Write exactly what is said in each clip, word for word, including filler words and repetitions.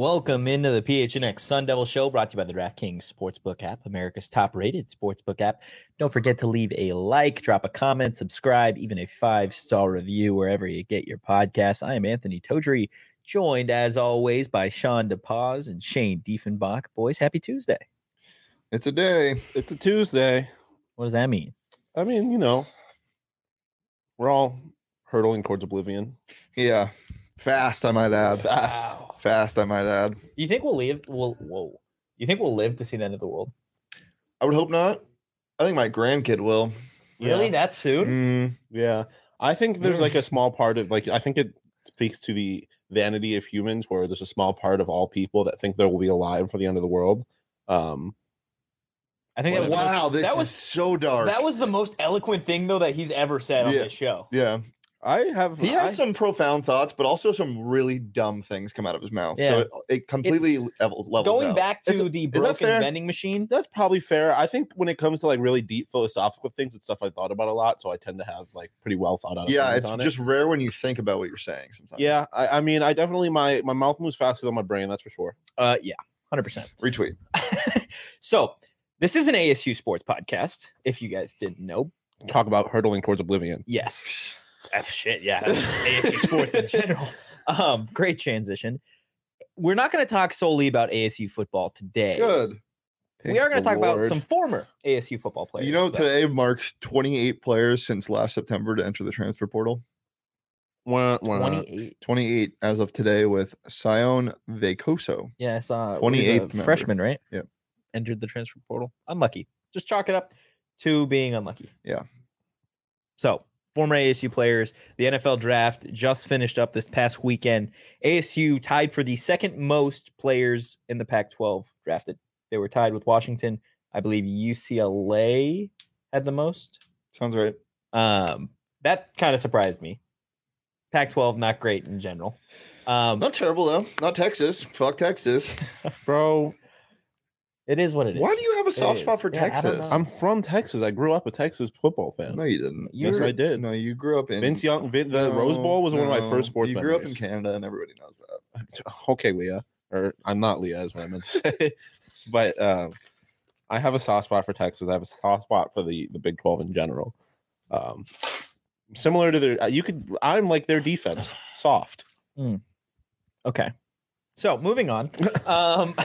Welcome into the P H N X Sun Devil Show, brought to you by the DraftKings Sportsbook app, America's top-rated sportsbook app. Don't forget to leave a like, drop a comment, subscribe, even a five-star review wherever you get your podcasts. I am Anthony Todry, joined, as always, by Sean DePaz and Shane Diefenbach. Boys, happy Tuesday. It's a day. It's a Tuesday. What does that mean? I mean, you know, we're all hurtling towards oblivion. Yeah. Fast, I might add. Fast. Wow. Fast, I might add. You think we'll live? We'll, whoa. You think we'll live to see the end of the world? I would hope not. I think my grandkid will. Really? Yeah. That soon? Mm, Yeah. I think there's like a small part of, like, I think it speaks to the vanity of humans where there's a small part of all people that think they will be alive for the end of the world. Um, I think that was the wow, most, this that is was so dark. that was the most eloquent thing though that he's ever said on Yeah. this show. yeah. I have. He has I, some profound thoughts, but also some really dumb things come out of his mouth. Yeah. So it, it completely levels, levels Going out. back to It's a- the that broken fair? vending machine. That's probably fair. I think when it comes to like really deep philosophical things, it's stuff I thought about a lot. So I tend to have like pretty well thought out. Yeah, opinions it's on just it. rare when you think about what you're saying sometimes. Yeah. I, I mean, I definitely my my mouth moves faster than my brain. That's for sure. Uh, yeah, one hundred percent. Retweet. So this is an A S U sports podcast. If you guys didn't know, Talk about hurtling towards oblivion. yes. Ah, shit, yeah, A S U sports in general. Um, great transition. We're not going to talk solely about A S U football today. Good. We are going to Thank talk the about Lord. some former A S U football players. You know, though. today marks twenty-eight players since last September to enter the transfer portal. Wah, wah. twenty-eight. twenty-eight as of today with Sion Vecoso. Yeah, I saw twenty-eighth a member. freshman, right? Yep. Entered the transfer portal. Unlucky. Just chalk it up to being unlucky. Yeah. So, former A S U players, the N F L draft just finished up this past weekend. A S U tied for the second most players in the Pac twelve drafted. They were tied with Washington. I believe U C L A had the most. Sounds right. Um, that kind of surprised me. Pac twelve, not great in general. Um, Not terrible though. Not Texas. Fuck Texas. Bro, it is what it is. Why do you have a soft is. spot for Yeah, I don't Texas? know. I'm from Texas. I grew up a Texas football fan. No, you didn't. Yes, You're- I did. No, you grew up in Vince Young, Vin, the Rose Bowl was one of my no. first sports You grew up in memories. Canada, and everybody knows that. Okay, Leah, or I'm not Leah, is what I meant to say. But um, I have a soft spot for Texas. I have a soft spot for the the Big twelve in general. Um, similar to their, you could. I'm like their defense, soft. Okay. So moving on. Um,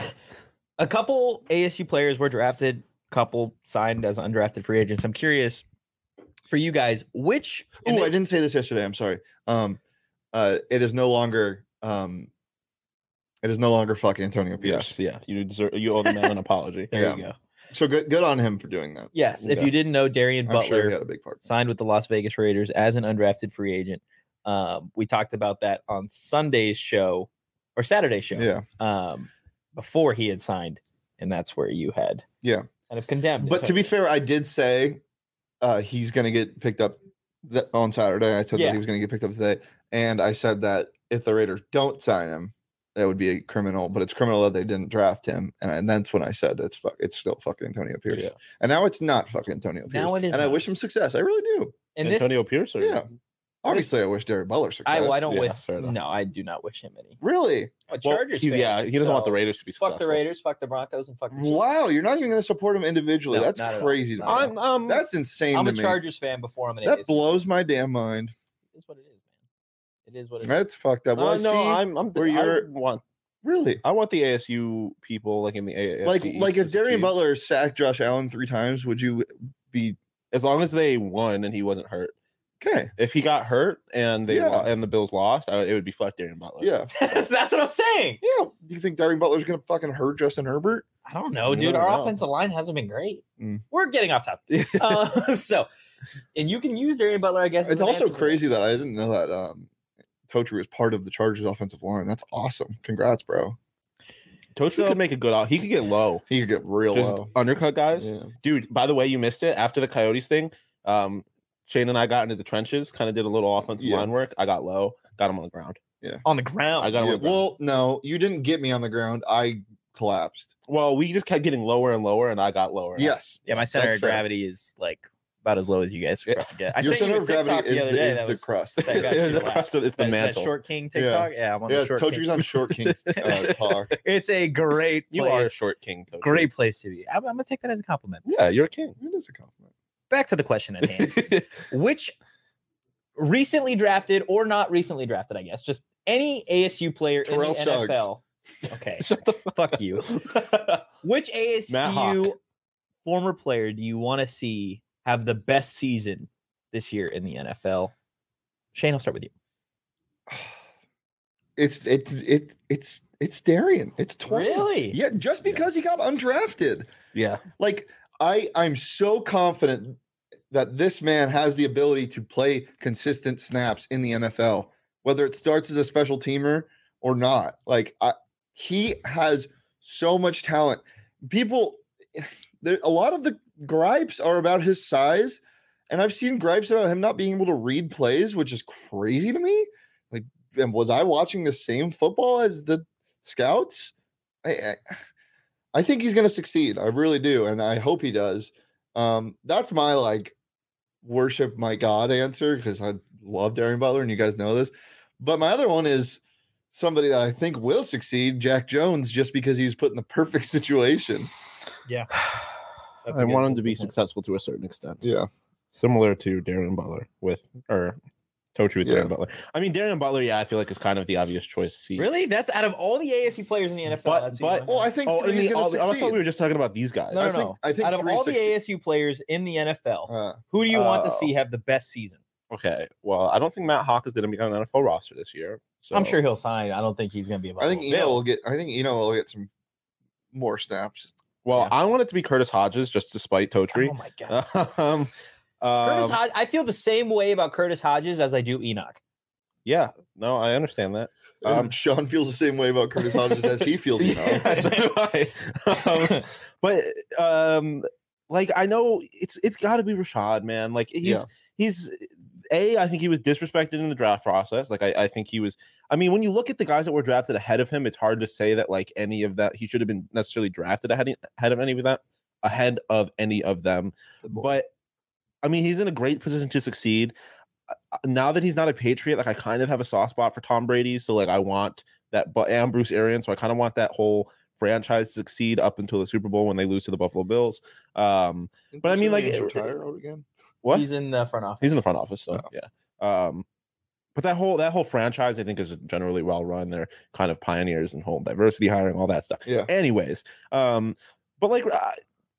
a couple A S U players were drafted, couple signed as undrafted free agents. I'm curious for you guys, which and Oh, I it- didn't say this yesterday. I'm sorry. Um, uh, it is no longer um, it is no longer fucking Antonio Pierce. Yes, yeah. You deserve. You owe the man an apology. there yeah. you go. So good, good on him for doing that. Yes, if Yeah. you didn't know, Darian I'm Butler sure he had a big part. signed with the Las Vegas Raiders as an undrafted free agent. Um, we talked about that on Sunday's show or Saturday's show. Yeah, Um, before he had signed, and that's where you had yeah. kind of condemned. But to be fair, I did say uh, he's going to get picked up th- on Saturday. I said Yeah. that he was going to get picked up today, and I said that if the Raiders don't sign him, that would be a criminal. But it's criminal that they didn't draft him, and, and that's when I said it's fu- it's still fucking Antonio Pierce. Yeah. And now it's not fucking Antonio Pierce. Now it is and I not. wish him success. I really do. and this, Antonio Pierce. Or, Yeah. Obviously, I wish Derek Butler success. I, well, I don't Yeah, wish. fair enough. No, I do not wish him any. Really. A Well, Chargers he's, fan, yeah, he doesn't want the so Raiders to be successful. Fuck the Raiders, fuck the Broncos, and fuck the Chiefs. Wow, you're not even going to support him individually. No, That's not at all. crazy to me. Not at I'm um. That's insane I'm to a me. Chargers fan before I'm an A That S U. blows my damn mind. It is what it is, man. It is what it is. That's fucked up. Well, uh, I no, see, I'm. I'm. where I you're- want. really I want the A S U people like in the A F C like East like to if Darian succeed. Butler sacked Josh Allen three times, would you be as long as they won and he wasn't hurt. okay? If he got hurt and they Yeah. lo- and the Bills lost, I, it would be fuck Darian Butler. Yeah, that's, that's what I'm saying. yeah. Do you think Darian Butler's gonna fucking hurt Justin Herbert? I don't know, You dude. never Our know. offensive line hasn't been great. Mm. We're getting off topic. uh, so, and you can use Darian Butler, I guess. as It's an also answer for crazy this. that I didn't know that um, Totri was part of the Chargers offensive line. That's awesome. Congrats, bro. Tochi So- could make a good out. He could get low. He could get real Just low. undercut guys. Yeah. Dude, by the way, you missed it. After the Coyotes thing, um, Shane and I got into the trenches, kind of did a little offensive Yeah. line work. I got low, got him on the ground. on the ground. I got him Yeah, on the ground. well, no, you didn't get me on the ground. I collapsed. Well, we just kept getting lower and lower, and I got lower. Yes. yeah, my center That's of fair. gravity is like about as low as you guys Yeah. probably get. I Your sent you center a of gravity TikTok is the other the, day. is that the was, crust. that got It you was the laugh. crust of- it's the That- that mantle. Short King TikTok. Yeah, I'm on Yeah, the Short Tochi's King. on Short King uh, talk. It's a great place. You are a short king. Tochi. Great place to be. I'm, I'm gonna take that as a compliment. Yeah, you're a king. It is a compliment. Back to the question at hand. Which recently drafted or not recently drafted, I guess, just any A S U player Terrell in the Suggs. N F L. Okay, Shut the fuck. fuck you. Which A S Matt U Hawk. former player do you want to see have the best season this year in the N F L? Shane, I'll start with you. It's it's it it's it's Darian. It's twenty. Really? Yeah, just because he got undrafted. Yeah. Like I I'm so confident that this man has the ability to play consistent snaps in the N F L, whether it starts as a special teamer or not. Like I, he has so much talent. People, there a lot of the gripes are about his size, and I've seen gripes about him not being able to read plays, which is crazy to me. Like, and was I watching the same football as the scouts? I, I, I think he's going to succeed. I really do, and I hope he does. Um, that's my like worship my God answer because I love Darian Butler, and you guys know this. But my other one is somebody that I think will succeed, Jack Jones, just because he's put in the perfect situation. Yeah. That's a I good- want him that's to a be good point. successful to a certain extent. Yeah. Similar to Darren Butler with or Tochi with Yeah. Darren Butler. I mean, Darren Butler, yeah, I feel like is kind of the obvious choice to see. Really? That's out of all the A S U players in the N F L. But- that's who but- you Well, want. I think Oh, and Free's the, going all to the- I succeed. thought we were just talking about these guys. no, I no, think- no. I think out of Free all the succeed. A S U players in the N F L, Uh, who do you want to Oh. see have the best season? Okay. Well, I don't think Matt Hawk is going to be on an N F L roster this year. So I'm sure he'll sign. I don't think he's going to be. A I think Buffalo Eno Bill. will get. I think Eno will get some more snaps. Well, Yeah. I want it to be Curtis Hodges just to spite Totri. Oh my god. um, Curtis um, Hodge, I feel the same way about Curtis Hodges as I do Enoch. yeah, no, I understand that. Um, Um, Sean feels the same way about Curtis Hodges as he feels. You know. Yeah, so do I. Um, but um, like I know it's it's got to be Rashad, man. Like he's Yeah. he's a. I think he was disrespected in the draft process. Like I, I think he was. I mean, when you look at the guys that were drafted ahead of him, it's hard to say that like any of that he should have been necessarily drafted ahead ahead of any of that ahead of any of them. But I mean, he's in a great position to succeed. Uh, Now that he's not a Patriot, like I kind of have a soft spot for Tom Brady. So like I want that, but and Bruce Arians. So I kind of want that whole franchise to succeed up until the Super Bowl when they lose to the Buffalo Bills. Um, Didn't but I Bruce mean, like, Arians it- retire out again. what He's in the front office. he's in the front office, so Oh. yeah. Um, but that whole that whole franchise, I think, is generally well run. They're kind of pioneers in whole diversity hiring, all that stuff. Yeah. Anyways, um, but like. I,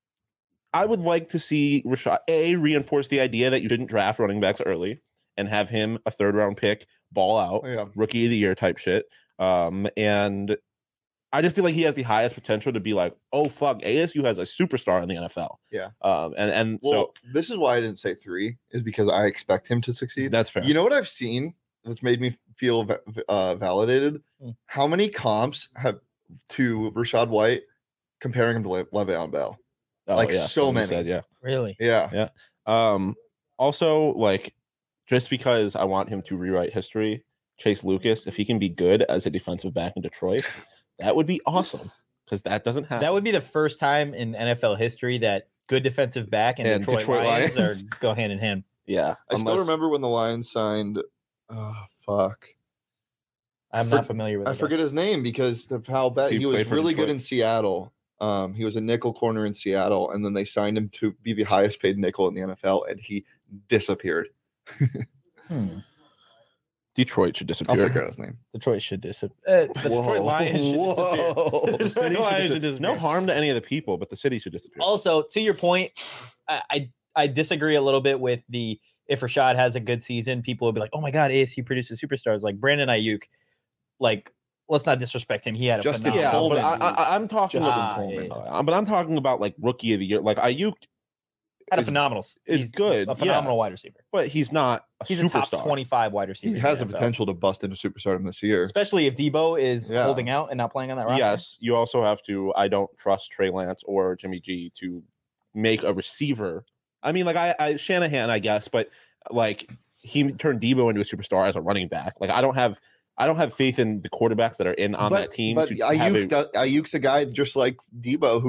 I would like to see Rashad A reinforce the idea that you didn't draft running backs early and have him a third round pick, ball out, Yeah. rookie of the year type shit. Um, and I just feel like he has the highest potential to be like, oh fuck, A S U has a superstar in the N F L. Yeah. Um, and and Well, this is why I didn't say three, is because I expect him to so succeed. that's fair. You know what I've seen that's made me feel va- uh, validated? Hmm. How many comps have to Rashad White comparing him to Le- Le'Veon Bell? Oh, like, yeah, so like you many. said, yeah. Really? Yeah. Um, also, like, just because I want him to rewrite history, Chase Lucas, if he can be good as a defensive back in Detroit, that would be awesome because that doesn't happen. That would be the first time in N F L history that good defensive back and, And Detroit, Detroit Lions, Lions. are go hand in hand. yeah. I still unless- remember when the Lions signed. Oh fuck! I'm For- not familiar with. I it, though. forget his name because of how bad He he, was. played for Really good Detroit. in Seattle. Um, he was a nickel corner in Seattle, and then they signed him to be the highest paid nickel in the N F L, and he disappeared. Hmm. Detroit should I'll disappear. figure out his name. Detroit should disappear. Uh, the Detroit Whoa. Lions should disappear. Whoa. The The Detroit city should Lions dis- should disappear. no harm to any of the people, but the city should disappear. Also, to your point, I, I I disagree a little bit with the if Rashad has a good season, people will be like, "Oh my God, A S U produces superstars like Brandon Ayuk." Like, let's not disrespect him. He had a Justin yeah, phenomenal. but Coleman, I, I, I'm talking Justin about. Coleman. Uh, but I'm talking about like rookie of the year. Like Ayuk, had a is- phenomenal. is he's good, a phenomenal wide receiver. but he's not a He's superstar. a top twenty-five wide receiver. He in has the the N F L. potential to bust into superstardom this year. especially if Debo is Yeah. holding out and not playing on that roster. Yes, you also have to. I don't trust Trey Lance or Jimmy G to make a receiver. I mean, like I, I Shanahan, I guess, but like he turned Debo into a superstar as a running back. Like I don't have, I don't have faith in the quarterbacks that are in on but, that team. But to have Ayuk, a- does- Ayuk's a guy just like Debo who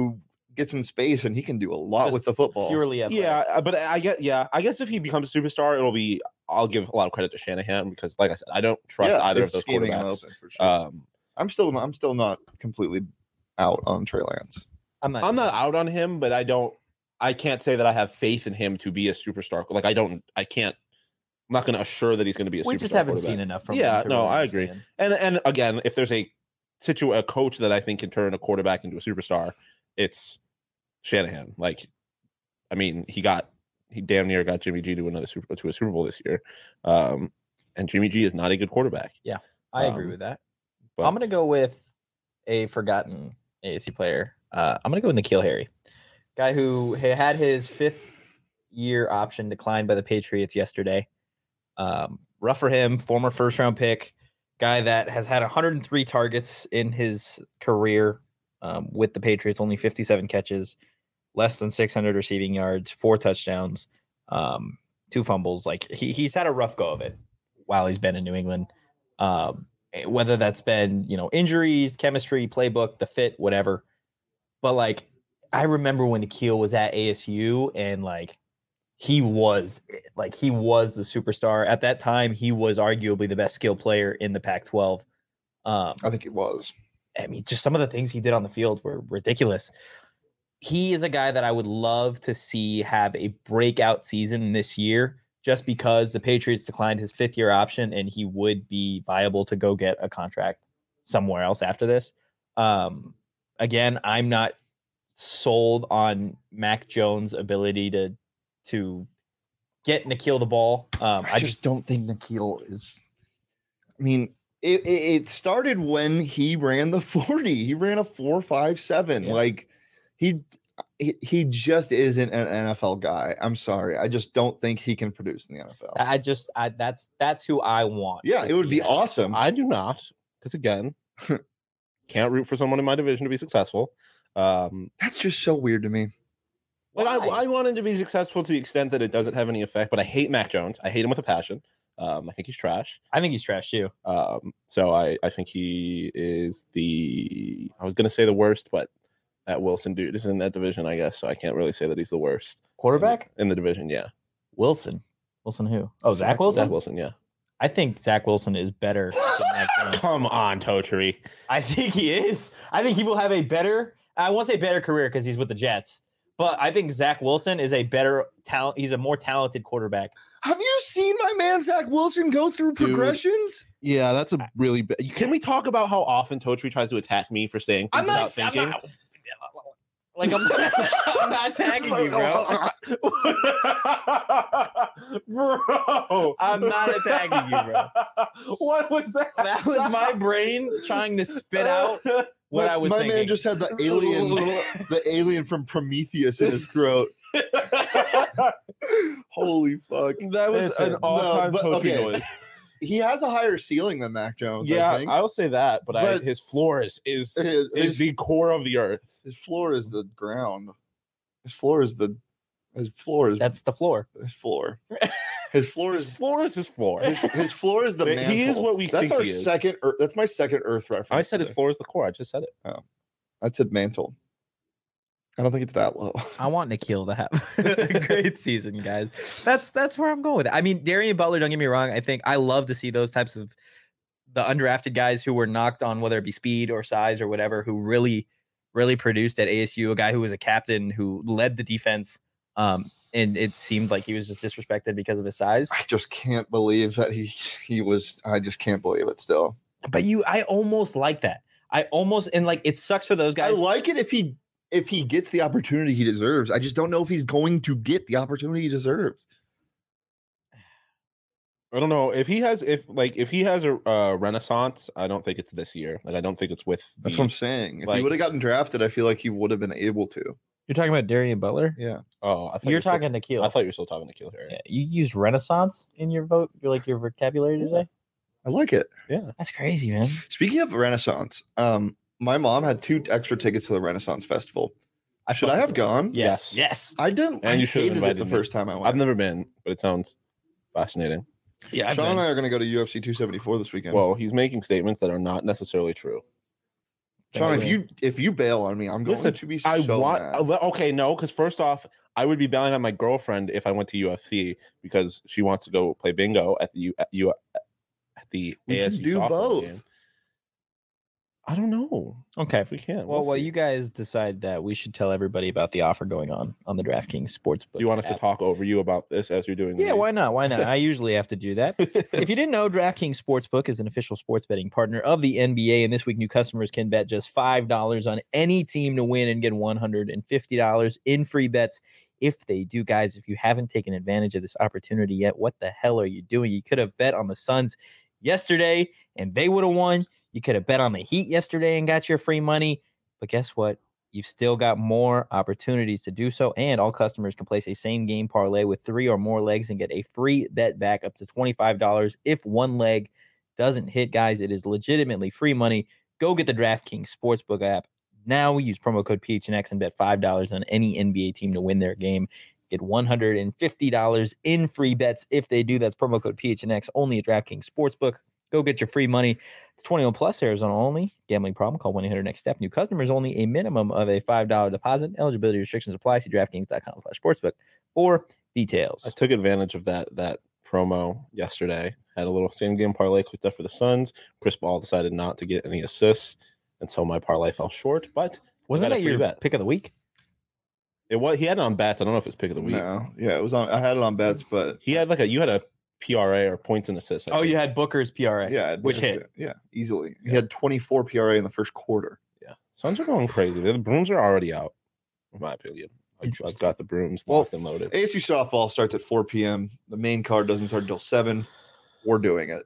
gets in space and he can do a lot Just with the football. Purely athletic. Yeah, uh, but I get yeah, I guess if he becomes a superstar, it'll be. I'll give a lot of credit to Shanahan because, like I said, I don't trust Yeah, either of it's those scheming him quarterbacks. open for sure. Um, I'm still I'm still not completely out on Trey Lance. I'm not. I'm not out on him, but I don't. I can't say that I have faith in him to be a superstar. Like I don't. I can't. I'm not going to assure that he's going to be a. We superstar just haven't quarterback. seen enough from. Yeah, him to no, really I agree. understand. And and again, if there's a situ a coach that I think can turn a quarterback into a superstar, it's Shanahan. Like, I mean, he got he damn near got Jimmy G to another super to a Super Bowl this year, um, and Jimmy G is not a good quarterback. I agree Um, with that. But I'm gonna go with a forgotten A S C player. Uh, I'm gonna go with N'Keal Harry, guy who ha- had his fifth year option declined by the Patriots yesterday. Um, rough for him, former first round pick, guy that has had one hundred three targets in his career um, with the Patriots, only fifty-seven catches, less than six hundred receiving yards, four touchdowns, um, two fumbles. Like he, he's had a rough go of it while he's been in New England. Um, whether that's been, you know, injuries, chemistry, playbook, the fit, whatever. But like, I remember when N'Keal was at A S U and like, he was like, he was the superstar at that time. He was arguably the best skill player in the Pac twelve. Um, I think it was. I mean, just some of the things he did on the field were ridiculous. He is a guy that I would love to see have a breakout season this year, just because the Patriots declined his fifth year option and he would be viable to go get a contract somewhere else after this. Um, again, I'm not sold on Mac Jones' ability to to get N'Keal the ball. Um, I, just don't think N'Keal is. I mean, it, it, it started when he ran the forty. He ran a four five seven. Yeah. Like he, he he just isn't an N F L guy. I'm sorry. I just don't think he can produce in the N F L. I just I, that's that's who I want. Yeah, to it would see be that. awesome. I do not, because again, can't root for someone in my division to be successful. Um, That's just so weird to me. Like I, Why? I want him to be successful to the extent that it doesn't have any effect. But I hate Mac Jones. I hate him with a passion. Um, I think he's trash. I think he's trash too. Um, so I, I think he is the. I was gonna say the worst, but that Wilson dude is in that division, I guess. So I can't really say that he's the worst Quarterback? in the division. Yeah, Wilson. Wilson who? Oh, Zach Zach- Wilson? Zach Wilson. Yeah. I think Zach Wilson is better than Mac Jones. Come on, Totri. I think he is. I think he will have a better, I won't say better career because he's with the Jets, but I think Zach Wilson is a better talent. He's a more talented quarterback. Have you seen my man Zach Wilson go through Dude. progressions? Yeah, that's a really bad. Can we talk about how often Totri tries to attack me for saying things without thinking? I'm not, like I'm not, I'm not attacking you, bro. Bro, I'm not attacking you, bro. What was that? That was my brain trying to spit out what my, I was my thinking. man just had the alien, the alien from Prometheus in his throat. Holy fuck! That was Listen, an all-time no, but- Totri okay. noise. He has a higher ceiling than Mac Jones. I Yeah, think. I will say that, but, I, But- his floor is is, his, is his, the core of the earth. his floor is the ground. His floor is the. His floor is That's the floor. his floor. His floor His is floor is his floor. his, his floor is the He mantle. is what we That's think our he is. second. Earth, that's my second Earth reference. I said his today. floor is the core. I just said it. I said mantle. I don't think it's that low. I want N'Keal to have a great season, guys. That's that's where I'm going with it. I mean, Darian Butler, don't get me wrong. I think I love to see those types of the undrafted guys who were knocked on, whether it be speed or size or whatever, who really, really produced at A S U. A guy who was a captain who led the defense. Um, and it seemed like he was just disrespected because of his size. I just can't believe that he he was. I just can't believe it. Still, But you, I almost like that. I almost and like it sucks for those I guys. like it if he if he gets the opportunity he deserves. I just don't know if he's going to get the opportunity he deserves. I don't know if he has if like if he has a uh, renaissance. I don't think it's this year. Like I don't think it's with. That's the- what I'm saying. If he like- would have gotten drafted, I feel like he would have been able to. You're talking about Darian Butler. Yeah, Oh, I thought You're you were still- talking N'Keal. I thought you were still talking to Kill Harry. Yeah, you used Renaissance in your vote. You're like your vocabulary today. I like it. Yeah. That's crazy, man. Speaking of Renaissance, um, my mom had two extra tickets to the Renaissance Festival. I Should fuck I have with it. gone? Yes. Yes. Yes. I didn't. And I you should have hated it invited the me. first time I went. I've never been, but it sounds fascinating. Yeah. I've Sean and been. I are going to go to U F C two seventy-four this weekend. Well, he's making statements that are not necessarily true. Sean, if Thanks, you if you bail on me, I'm going Listen, to be I so want mad. uh, okay, no, because first off, I would be bailing on my girlfriend if I went to U F C because she wants to go play bingo at the U at, U, at the We A S can U do softball both. game. I don't know Okay. if we can. Well, We'll well, see. you guys decide that we should tell everybody about the offer going on on the DraftKings Sportsbook. Do you want us app. to talk over you about this as you're doing? Yeah, the... why not? Why not? I usually have to do that. If you didn't know, DraftKings Sportsbook is an official sports betting partner of the N B A, and this week new customers can bet just five dollars on any team to win and get one hundred fifty dollars in free bets if they do. Guys, if you haven't taken advantage of this opportunity yet, what the hell are you doing? You could have bet on the Suns yesterday and they would have won. You could have bet on the Heat yesterday and got your free money. But guess what? You've still got more opportunities to do so. And all customers can place a same game parlay with three or more legs and get a free bet back up to twenty-five dollars if one leg doesn't hit. Guys, it is legitimately free money. Go get the DraftKings Sportsbook app. Now use promo code P H N X and bet five dollars on any N B A team to win their game. Get one hundred fifty dollars in free bets if they do. That's promo code P H N X only at DraftKings Sportsbook. Go get your free money. It's twenty-one plus, Arizona only. Gambling problem? Call one eight hundred next step. New customers only. A minimum of a five dollars deposit. Eligibility restrictions apply. See DraftKings.com slash sportsbook for details. I took advantage of that that promo yesterday. Had a little same game parlay clicked up for the Suns. Chris Paul decided not to get any assists, and so my parlay fell short. But Wasn't got a that free your bet. pick of the week? It was he had it on bets. I don't know if it's pick of the week. No, yeah, it was on. I had it on bets, but He had like a you had a P R A or points and assists. I Oh, think. you had Booker's P R A. yeah, Which hit? Yeah, easily. He Yeah. had twenty-four P R A in the first quarter. Yeah, Suns are going crazy. The brooms are already out, in my opinion. I've, I've Interesting. got the brooms Well, locked and loaded. A S U softball starts at four p.m. The main card doesn't start until seven. We're doing it.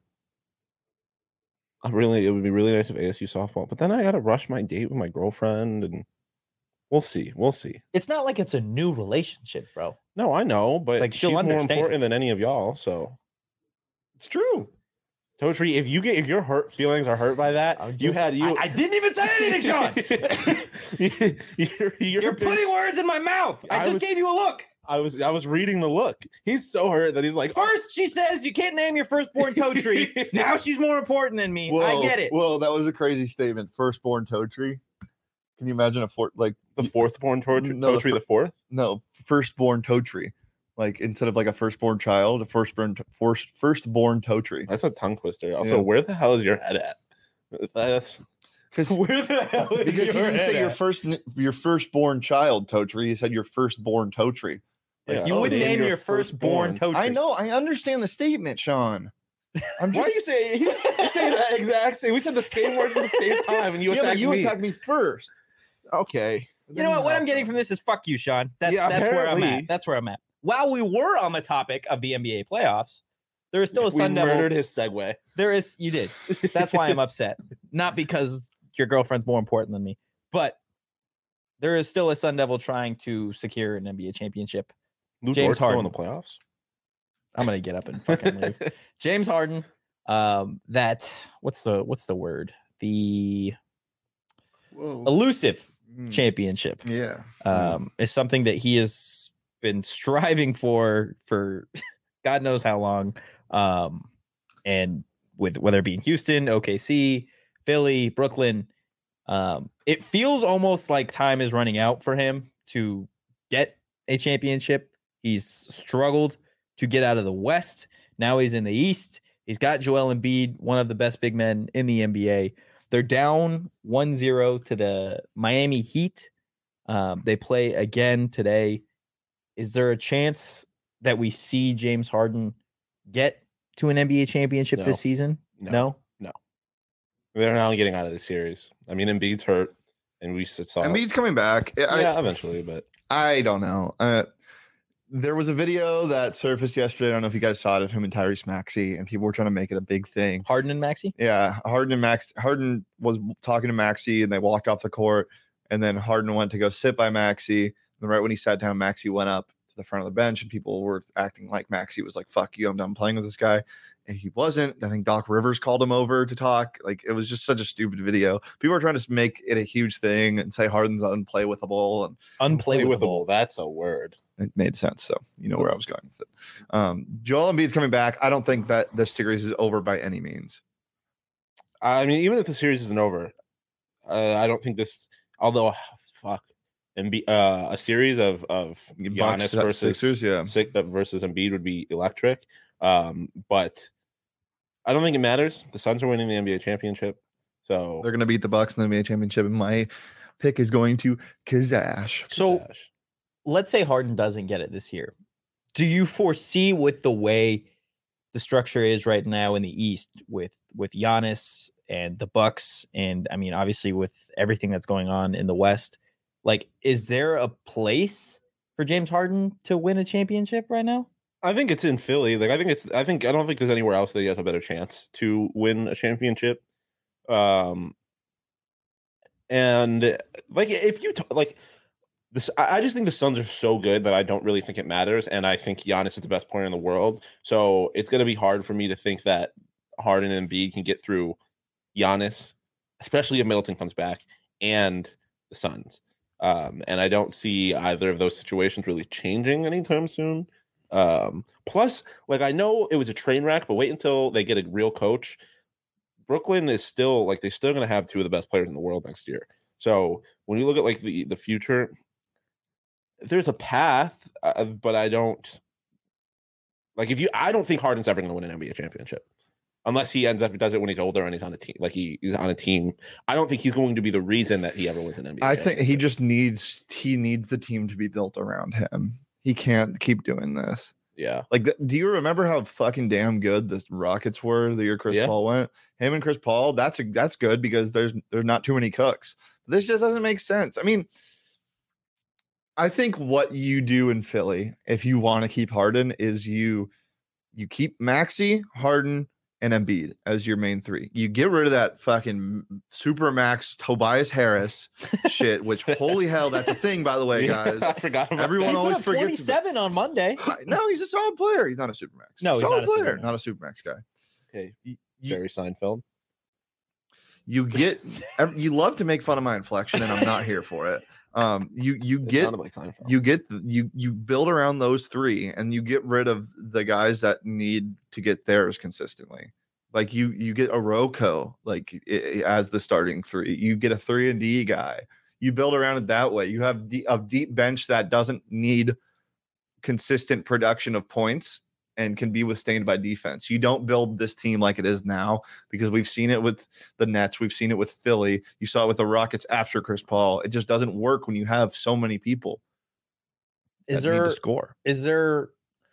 I really, it would be really nice if A S U softball, but then I got to rush my date with my girlfriend, and we'll see. We'll see. It's not like it's a new relationship, bro. No, I know, but Like, she'll she's more understand. important than any of y'all. So, It's true. Totri, if you get if your hurt feelings are hurt by that, I'm you just- had you. I, I didn't even say anything, Sean. you're, you're, You're putting words in my mouth. I, I just was- gave you a look. I was I was reading the look. He's so hurt that he's like, First, she says you can't name your firstborn toe tree. Now she's more important than me. I get it. Well, that was a crazy statement. Firstborn toe tree. Can you imagine a four like the fourth born Totri, No, the Totri fir- the fourth. no firstborn toe tree? Like instead of like a firstborn child, a firstborn first firstborn toe tree. That's a tongue twister. Also, Yeah. where the hell is your head at? That's Because Where the hell is because he your didn't head say your at? first your firstborn child toe tree. He said your firstborn toe tree. Like, Yeah. You oh, would name name your your firstborn firstborn. toe tree. I know. I understand the statement, Sean. I'm why just are you saying you say that exact same? We said the same words at the same time, and you yeah, but attacked you me. attacked me first. Okay, You know what? What I'm getting from this is fuck you, Sean. That's Yeah, that's where I'm apparently. at. That's where I'm at. While we were on the topic of the N B A playoffs, there is still a we Sun Devil. murdered his segue. There is you did. That's why I'm upset. Not because your girlfriend's more important than me, but there is still a Sun Devil trying to secure an N B A championship. Lou James Dort's still in Harden. the playoffs. I'm gonna get up and fucking leave. James Harden. Um, that what's the what's the word? The Whoa. elusive Mm. championship. Yeah. um, is something that he has been striving for for God knows how long. Um, and with whether it be in Houston, O K C, Philly, Brooklyn, um, it feels almost like time is running out for him to get a championship. He's struggled to get out of the West. Now he's in the East. He's got Joel Embiid, one of the best big men in the N B A. They're down one zero to the Miami Heat. Um, they play again today. Is there a chance that we see James Harden get to an N B A championship No. this season? No. They're now getting out of the series. I mean, Embiid's hurt, and we s- saw. Embiid's coming back. I, yeah, eventually, but I don't know. Uh, there was a video that surfaced yesterday. I don't know if you guys saw it of him and Tyrese Maxey, and people were trying to make it a big thing. Harden and Maxey? Yeah, Harden and Max. Harden was talking to Maxey, and they walked off the court. And then Harden went to go sit by Maxey. And right when he sat down, Maxey went up to the front of the bench, and people were acting like Maxey was like, "Fuck you, I'm done playing with this guy." And he wasn't. I think Doc Rivers called him over to talk. Like, it was just such a stupid video. People are trying to make it a huge thing and say Harden's unplayable, and Unplayable. That's a word. it made sense. So you know where I was going with it. Um, Joel Embiid's coming back. I don't think that this series is over by any means. I mean, even if the series isn't over, Uh, I don't think this. Although, fuck, Embiid, uh, a series of of Giannis Bucks, versus Sixers, yeah. Six, uh, versus Embiid would be electric. Um, but I don't think it matters. The Suns are winning the N B A championship, so They're going to beat the Bucks in the N B A championship. And my pick is going to Kazash. So Kazash. let's say Harden doesn't get it this year. Do you foresee with the way the structure is right now in the East with with Giannis and the Bucks, and I mean obviously with everything that's going on in the West, like is there a place for James Harden to win a championship right now? I think it's in Philly. Like I think it's. I think I don't think there's anywhere else that he has a better chance to win a championship. Um, and like if you t- like this, I I just think the Suns are so good that I don't really think it matters. And I think Giannis is the best player in the world. So it's going to be hard for me to think that Harden and Embiid can get through Giannis, especially if Middleton comes back, and the Suns. Um, and I don't see either of those situations really changing anytime soon. Um, plus, like I know it was a train wreck, but wait until they get a real coach. Brooklyn is still like they're still going to have two of the best players in the world next year. So when you look at like the the future, there's a path, uh, but I don't like if you. I don't think Harden's ever going to win an N B A championship unless he ends up does it when he's older and he's on a team. Like he, he's on a team. I don't think he's going to be the reason that he ever wins an N B A. I think he just needs he needs the team to be built around him. He can't keep doing this. Yeah. Like, the, do you remember how fucking damn good the Rockets were the year Chris Yeah. Paul went? Him and Chris Paul, that's a, that's good because there's there's not too many cooks. This just doesn't make sense. I mean, I think what you do in Philly, if you want to keep Harden, is you you keep Maxey, Harden, and Embiid as your main three. You get rid of that fucking super max Tobias Harris shit, which holy hell, that's a thing, by the way, guys. I forgot about Everyone He always put up forgets twenty-seven on Monday. No, he's a solid player. He's not a super max. No, he's solid not a player, supermax. not a super max guy. Okay. You, Jerry Seinfeld. you get ev- you love to make fun of my inflection, and I'm not here for it. Um, you you It get sounded like Seinfeld. you get the- you you build around those three, and you get rid of the guys that need to get theirs consistently. Like you you get a Rocco like i- i- as the starting three. You get a three and D guy. You build around it that way. You have de- a deep bench that doesn't need consistent production of points and can be withstained by defense. You don't build this team like it is now because we've seen it with the Nets. We've seen it with Philly. You saw it with the Rockets after Chris Paul. It just doesn't work when you have so many people Is that need there to score. is there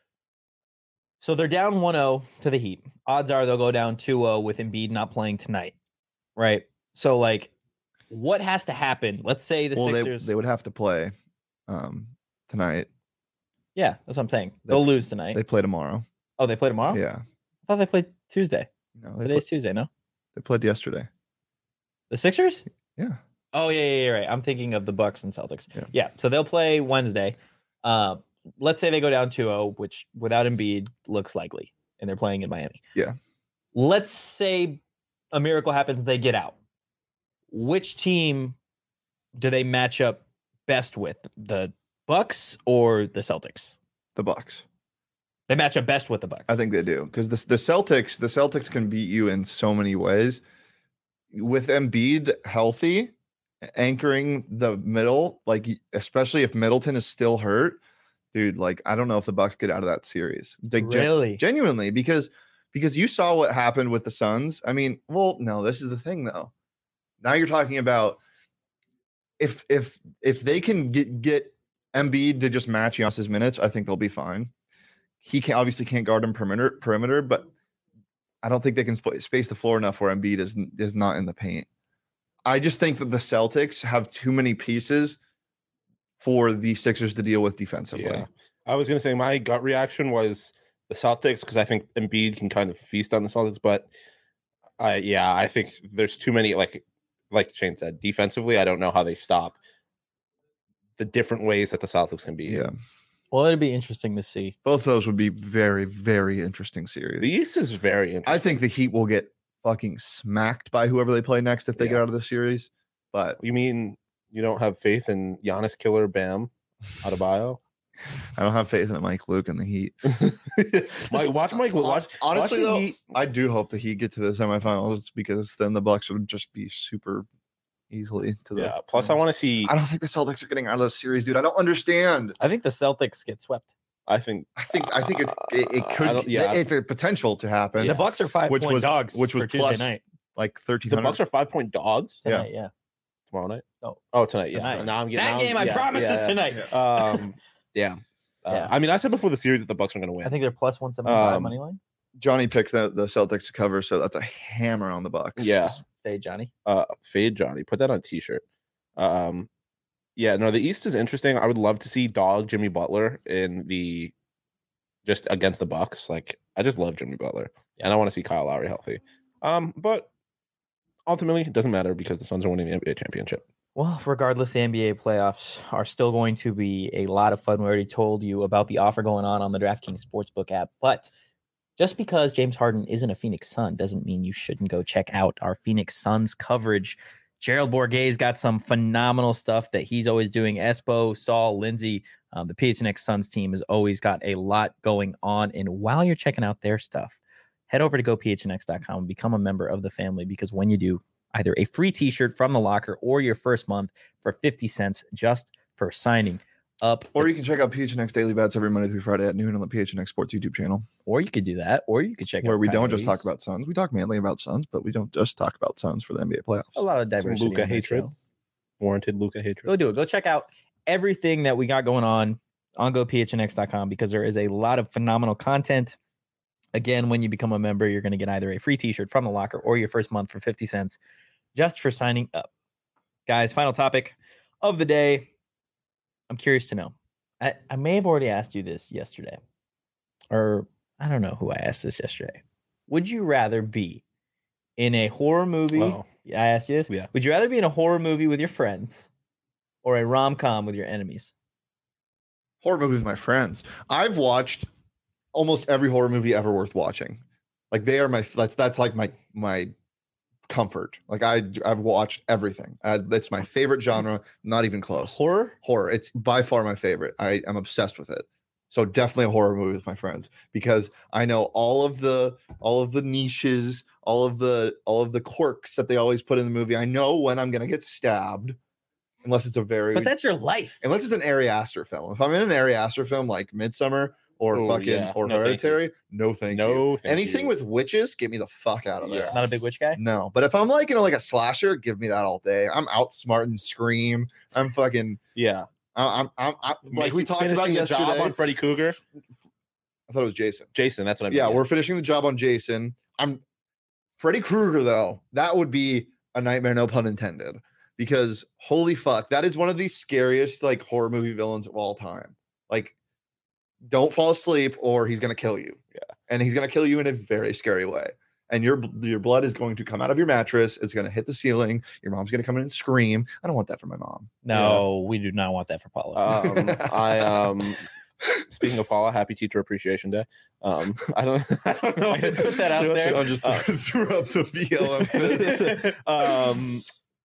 so they're down one oh to the Heat. Odds are they'll go down two oh with Embiid not playing tonight. Right? So like what has to happen? Let's say the Well, they, Sixers they would have to play um, tonight. Yeah, that's what I'm saying. They- They'll lose tonight. They play tomorrow. oh, they play tomorrow? Yeah. I thought they played Tuesday. No, they, Today's play, Tuesday, no? they played yesterday. The Sixers? Yeah. Oh yeah, yeah, yeah, right. I'm thinking of the Bucks and Celtics. Yeah. Yeah. So they'll play Wednesday. Uh, let's say they go down two oh, which without Embiid looks likely, and they're playing in Miami. Yeah. Let's say a miracle happens, they get out. Which team do they match up best with? The Bucks or the Celtics? The Bucks. They match up best with the Bucks. I think they do because the the Celtics the Celtics can beat you in so many ways. With Embiid healthy, anchoring the middle, like especially if Middleton is still hurt, dude. Like I don't know if the Bucks get out of that series. Like, gen- really? genuinely, because because you saw what happened with the Suns. I mean, well, no, this is the thing though. Now you're talking about if if if they can get get Embiid to just match Giannis's minutes, I think they'll be fine. He can obviously can't guard him perimeter, perimeter, but I don't think they can sp- space the floor enough where Embiid is is not in the paint. I just think that the Celtics have too many pieces for the Sixers to deal with defensively. Yeah. I was gonna say my gut reaction was the Celtics because I think Embiid can kind of feast on the Celtics, but I yeah, I think there's too many like like Shane said, defensively, I don't know how they stop the different ways that the Celtics can be. Yeah. Well, it'd be interesting to see. Both of those would be very, very interesting series. The East is very interesting. I think the Heat will get fucking smacked by whoever they play next if they get Yeah. out of the series. But You mean you don't have faith in Giannis Killer Bam Adebayo? I don't have faith in Mike Luke and the Heat. Mike, watch Mike. Watch Honestly, watch the though, Heat. I do hope the Heat get to the semifinals because then the Bucks would just be super easily to the. Yeah. Plus, I want to see. I don't think the Celtics are getting out of the series, dude. I don't understand. I think the Celtics get swept. I think. I think. I think it's, it, it Uh, I could. don't- yeah. It's a potential to happen. The Bucks are five Which point was- dogs, which was for plus- Tuesday night. Like thirteen The hundred. Bucks are five point dogs Yeah. Tonight, yeah. tomorrow night. Oh. Oh, tonight. Yeah. Tonight. Now I'm getting That now game, I'm- I yeah, promise, yeah, is yeah. tonight. Yeah. Um. Yeah. Uh, Yeah. I mean, I said before the series that the Bucks are going to win. I think they're plus one seventy five Um, money line. Johnny picked the, the Celtics to cover, so that's a hammer on the Bucks. Yeah. Hey, Johnny. Uh, fade Johnny. Put that on a t-shirt. Um, yeah. No, the East is interesting. I would love to see dog Jimmy Butler in the just against the Bucks. Like, I just love Jimmy Butler, and I want to see Kyle Lowry healthy. Um, but ultimately, it doesn't matter because the Suns are winning the N B A championship. Well, regardless, the N B A playoffs are still going to be a lot of fun. We already told you about the offer going on on the DraftKings Sportsbook app. But just because James Harden isn't a Phoenix Sun doesn't mean you shouldn't go check out our Phoenix Suns coverage. Gerald Bourguet's got some phenomenal stuff that he's always doing. Espo, Saul, Lindsay, um, the P H N X Suns team has always got a lot going on. And while you're checking out their stuff, head over to go P H N X dot com and become a member of the family, because when you do, either a free t-shirt from the locker or your first month for fifty cents just for signing up. Or you can check out P H N X Daily Bets every Monday through Friday at noon on the P H N X Sports YouTube channel, Or you could do that. Or you could check where out we don't just Coyotes. talk about Suns. We talk mainly about Suns, but we don't just talk about Suns for the N B A playoffs. a lot of Some diversity. Luka on that hatred. show. Warranted Luka hatred. Go do it. Go check out everything that we got going on on go P H N X dot com, because there is a lot of phenomenal content. Again, when you become a member, you're going to get either a free t-shirt from the locker or your first month for fifty cents just for signing up. Guys, final topic of the day. I'm curious to know. I, I may have already asked you this yesterday, or I don't know who I asked this yesterday. Would you rather be in a horror movie? Oh. I asked you this. Yeah. Would you rather be in a horror movie with your friends or a rom-com with your enemies? Horror movie with my friends. I've watched almost every horror movie ever worth watching. Like they are my that's that's like my my comfort. Like I I've watched everything. Uh, that's my favorite genre. Not even close. Horror? Horror. It's by far my favorite. I am obsessed with it. So definitely a horror movie with my friends, because I know all of the all of the niches, all of the all of the quirks that they always put in the movie. I know when I'm gonna get stabbed, unless it's a very But that's your life. unless it's an Ari Aster film. If I'm in an Ari Aster film like Midsummer or Oh, fucking yeah. or No, thank you. Hereditary, no thank you. No, thank Anything you. with witches, get me the fuck out of there. Yeah. Not a big witch guy? No, but if I'm like in a, like a slasher, give me that all day. I'm outsmarting Scream. I'm fucking. Yeah. I- I'm. I'm. I'm like we Making- talked about finishing the job yesterday. on Freddy Cougar. I thought it was Jason. Jason, that's what I mean. Yeah, we're finishing the job on Jason. I'm Freddy Krueger though. That would be a nightmare, no pun intended. Because holy fuck, that is one of the scariest like horror movie villains of all time. Like, don't fall asleep or he's gonna kill you. Yeah, and he's gonna kill you in a very scary way. And your your blood is going to come out of your mattress. It's gonna hit the ceiling. Your mom's gonna come in and scream. I don't want that for my mom. No, we do not want that for Paula. Um, I um. Speaking of Paula, happy Teacher Appreciation Day. Um, I don't, I don't know. I'm gonna put that out there. Sean just Uh, threw up the B L M fist. um,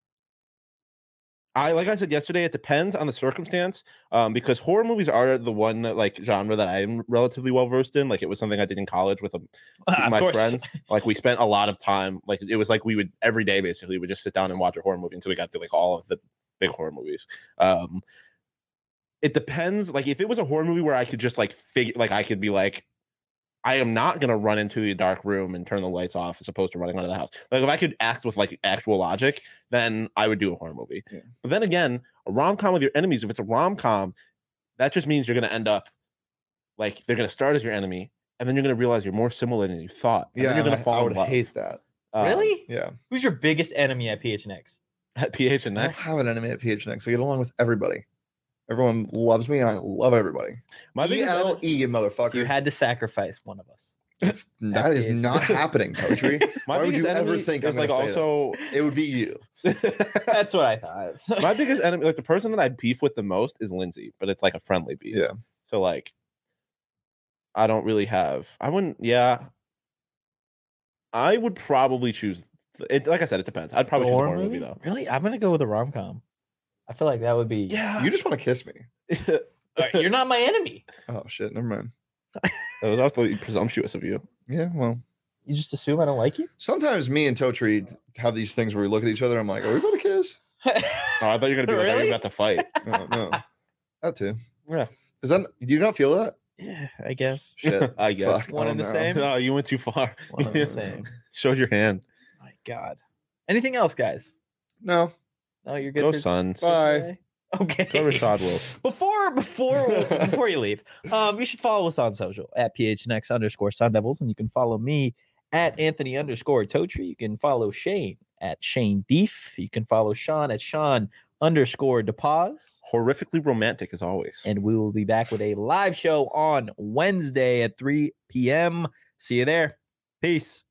I like I said yesterday, it depends on the circumstance. Um, because horror movies are the one like genre that I'm relatively well versed in. Like it was something I did in college with a, Of my course. friends. Like we spent a lot of time. Like it was like we would every day basically we would just sit down and watch a horror movie until we got through like all of the big horror movies. Um, it depends. Like if it was a horror movie where I could just like figure, like I could be like, I am not gonna run into the dark room and turn the lights off as opposed to running out of the house. Like if I could act with like actual logic, then I would do a horror movie. Yeah. But then again, a rom com with your enemies, if it's a rom com, that just means you're gonna end up like they're gonna start as your enemy, and then you're gonna realize you're more similar than you thought. And Yeah, then you're gonna I, fall I in would love. hate that. Um, Really? Yeah, Who's your biggest enemy at P H N X? at P H and I don't X. have an enemy at P H N X. I get along with everybody. Everyone loves me, and I love everybody. My E biggest L enemy- E, motherfucker. You had to sacrifice one of us. That's, that is P H N X. not happening, Poetry. My Why would biggest you ever enemy think I'm is like gonna say also It would be you. That's what I thought. my biggest enemy, like the person that I beef with the most is Lindsay, but it's like a friendly beef. Yeah. So like, I don't really have. I wouldn't. Yeah. I would probably choose. It like I said, it depends. I'd probably choose a Horror horror movie? movie though. Really? I'm gonna go with a rom com. I feel like that would be. Yeah. You just want to kiss me. You're not my enemy. Oh shit, never mind. That was awfully presumptuous of you. Yeah, well, You just assume I don't like you? sometimes me and Totri have these things where we look at each other. I'm like, are we about to kiss? Oh, I thought you were gonna be like, are Really? you about to fight? No, no, that too. Yeah. Does that? Do you not feel that? Yeah, I guess. Shit. I guess. Fuck, One I and the don't know. same? No, you went too far. One and the same. Showed your hand. My God. Anything else, guys? No. No, you're good. Go for Suns. Bye. today? Okay. Go Rashad Wills. Before before before you leave, um, you should follow us on social at P H N X underscore Sun Devils, and you can follow me at Anthony underscore Totri. You can follow Shane at Shane Deef. You can follow Sean at Sean underscore DePaz. Horrifically romantic as always. And we will be back with a live show on Wednesday at three p.m. See you there. Peace.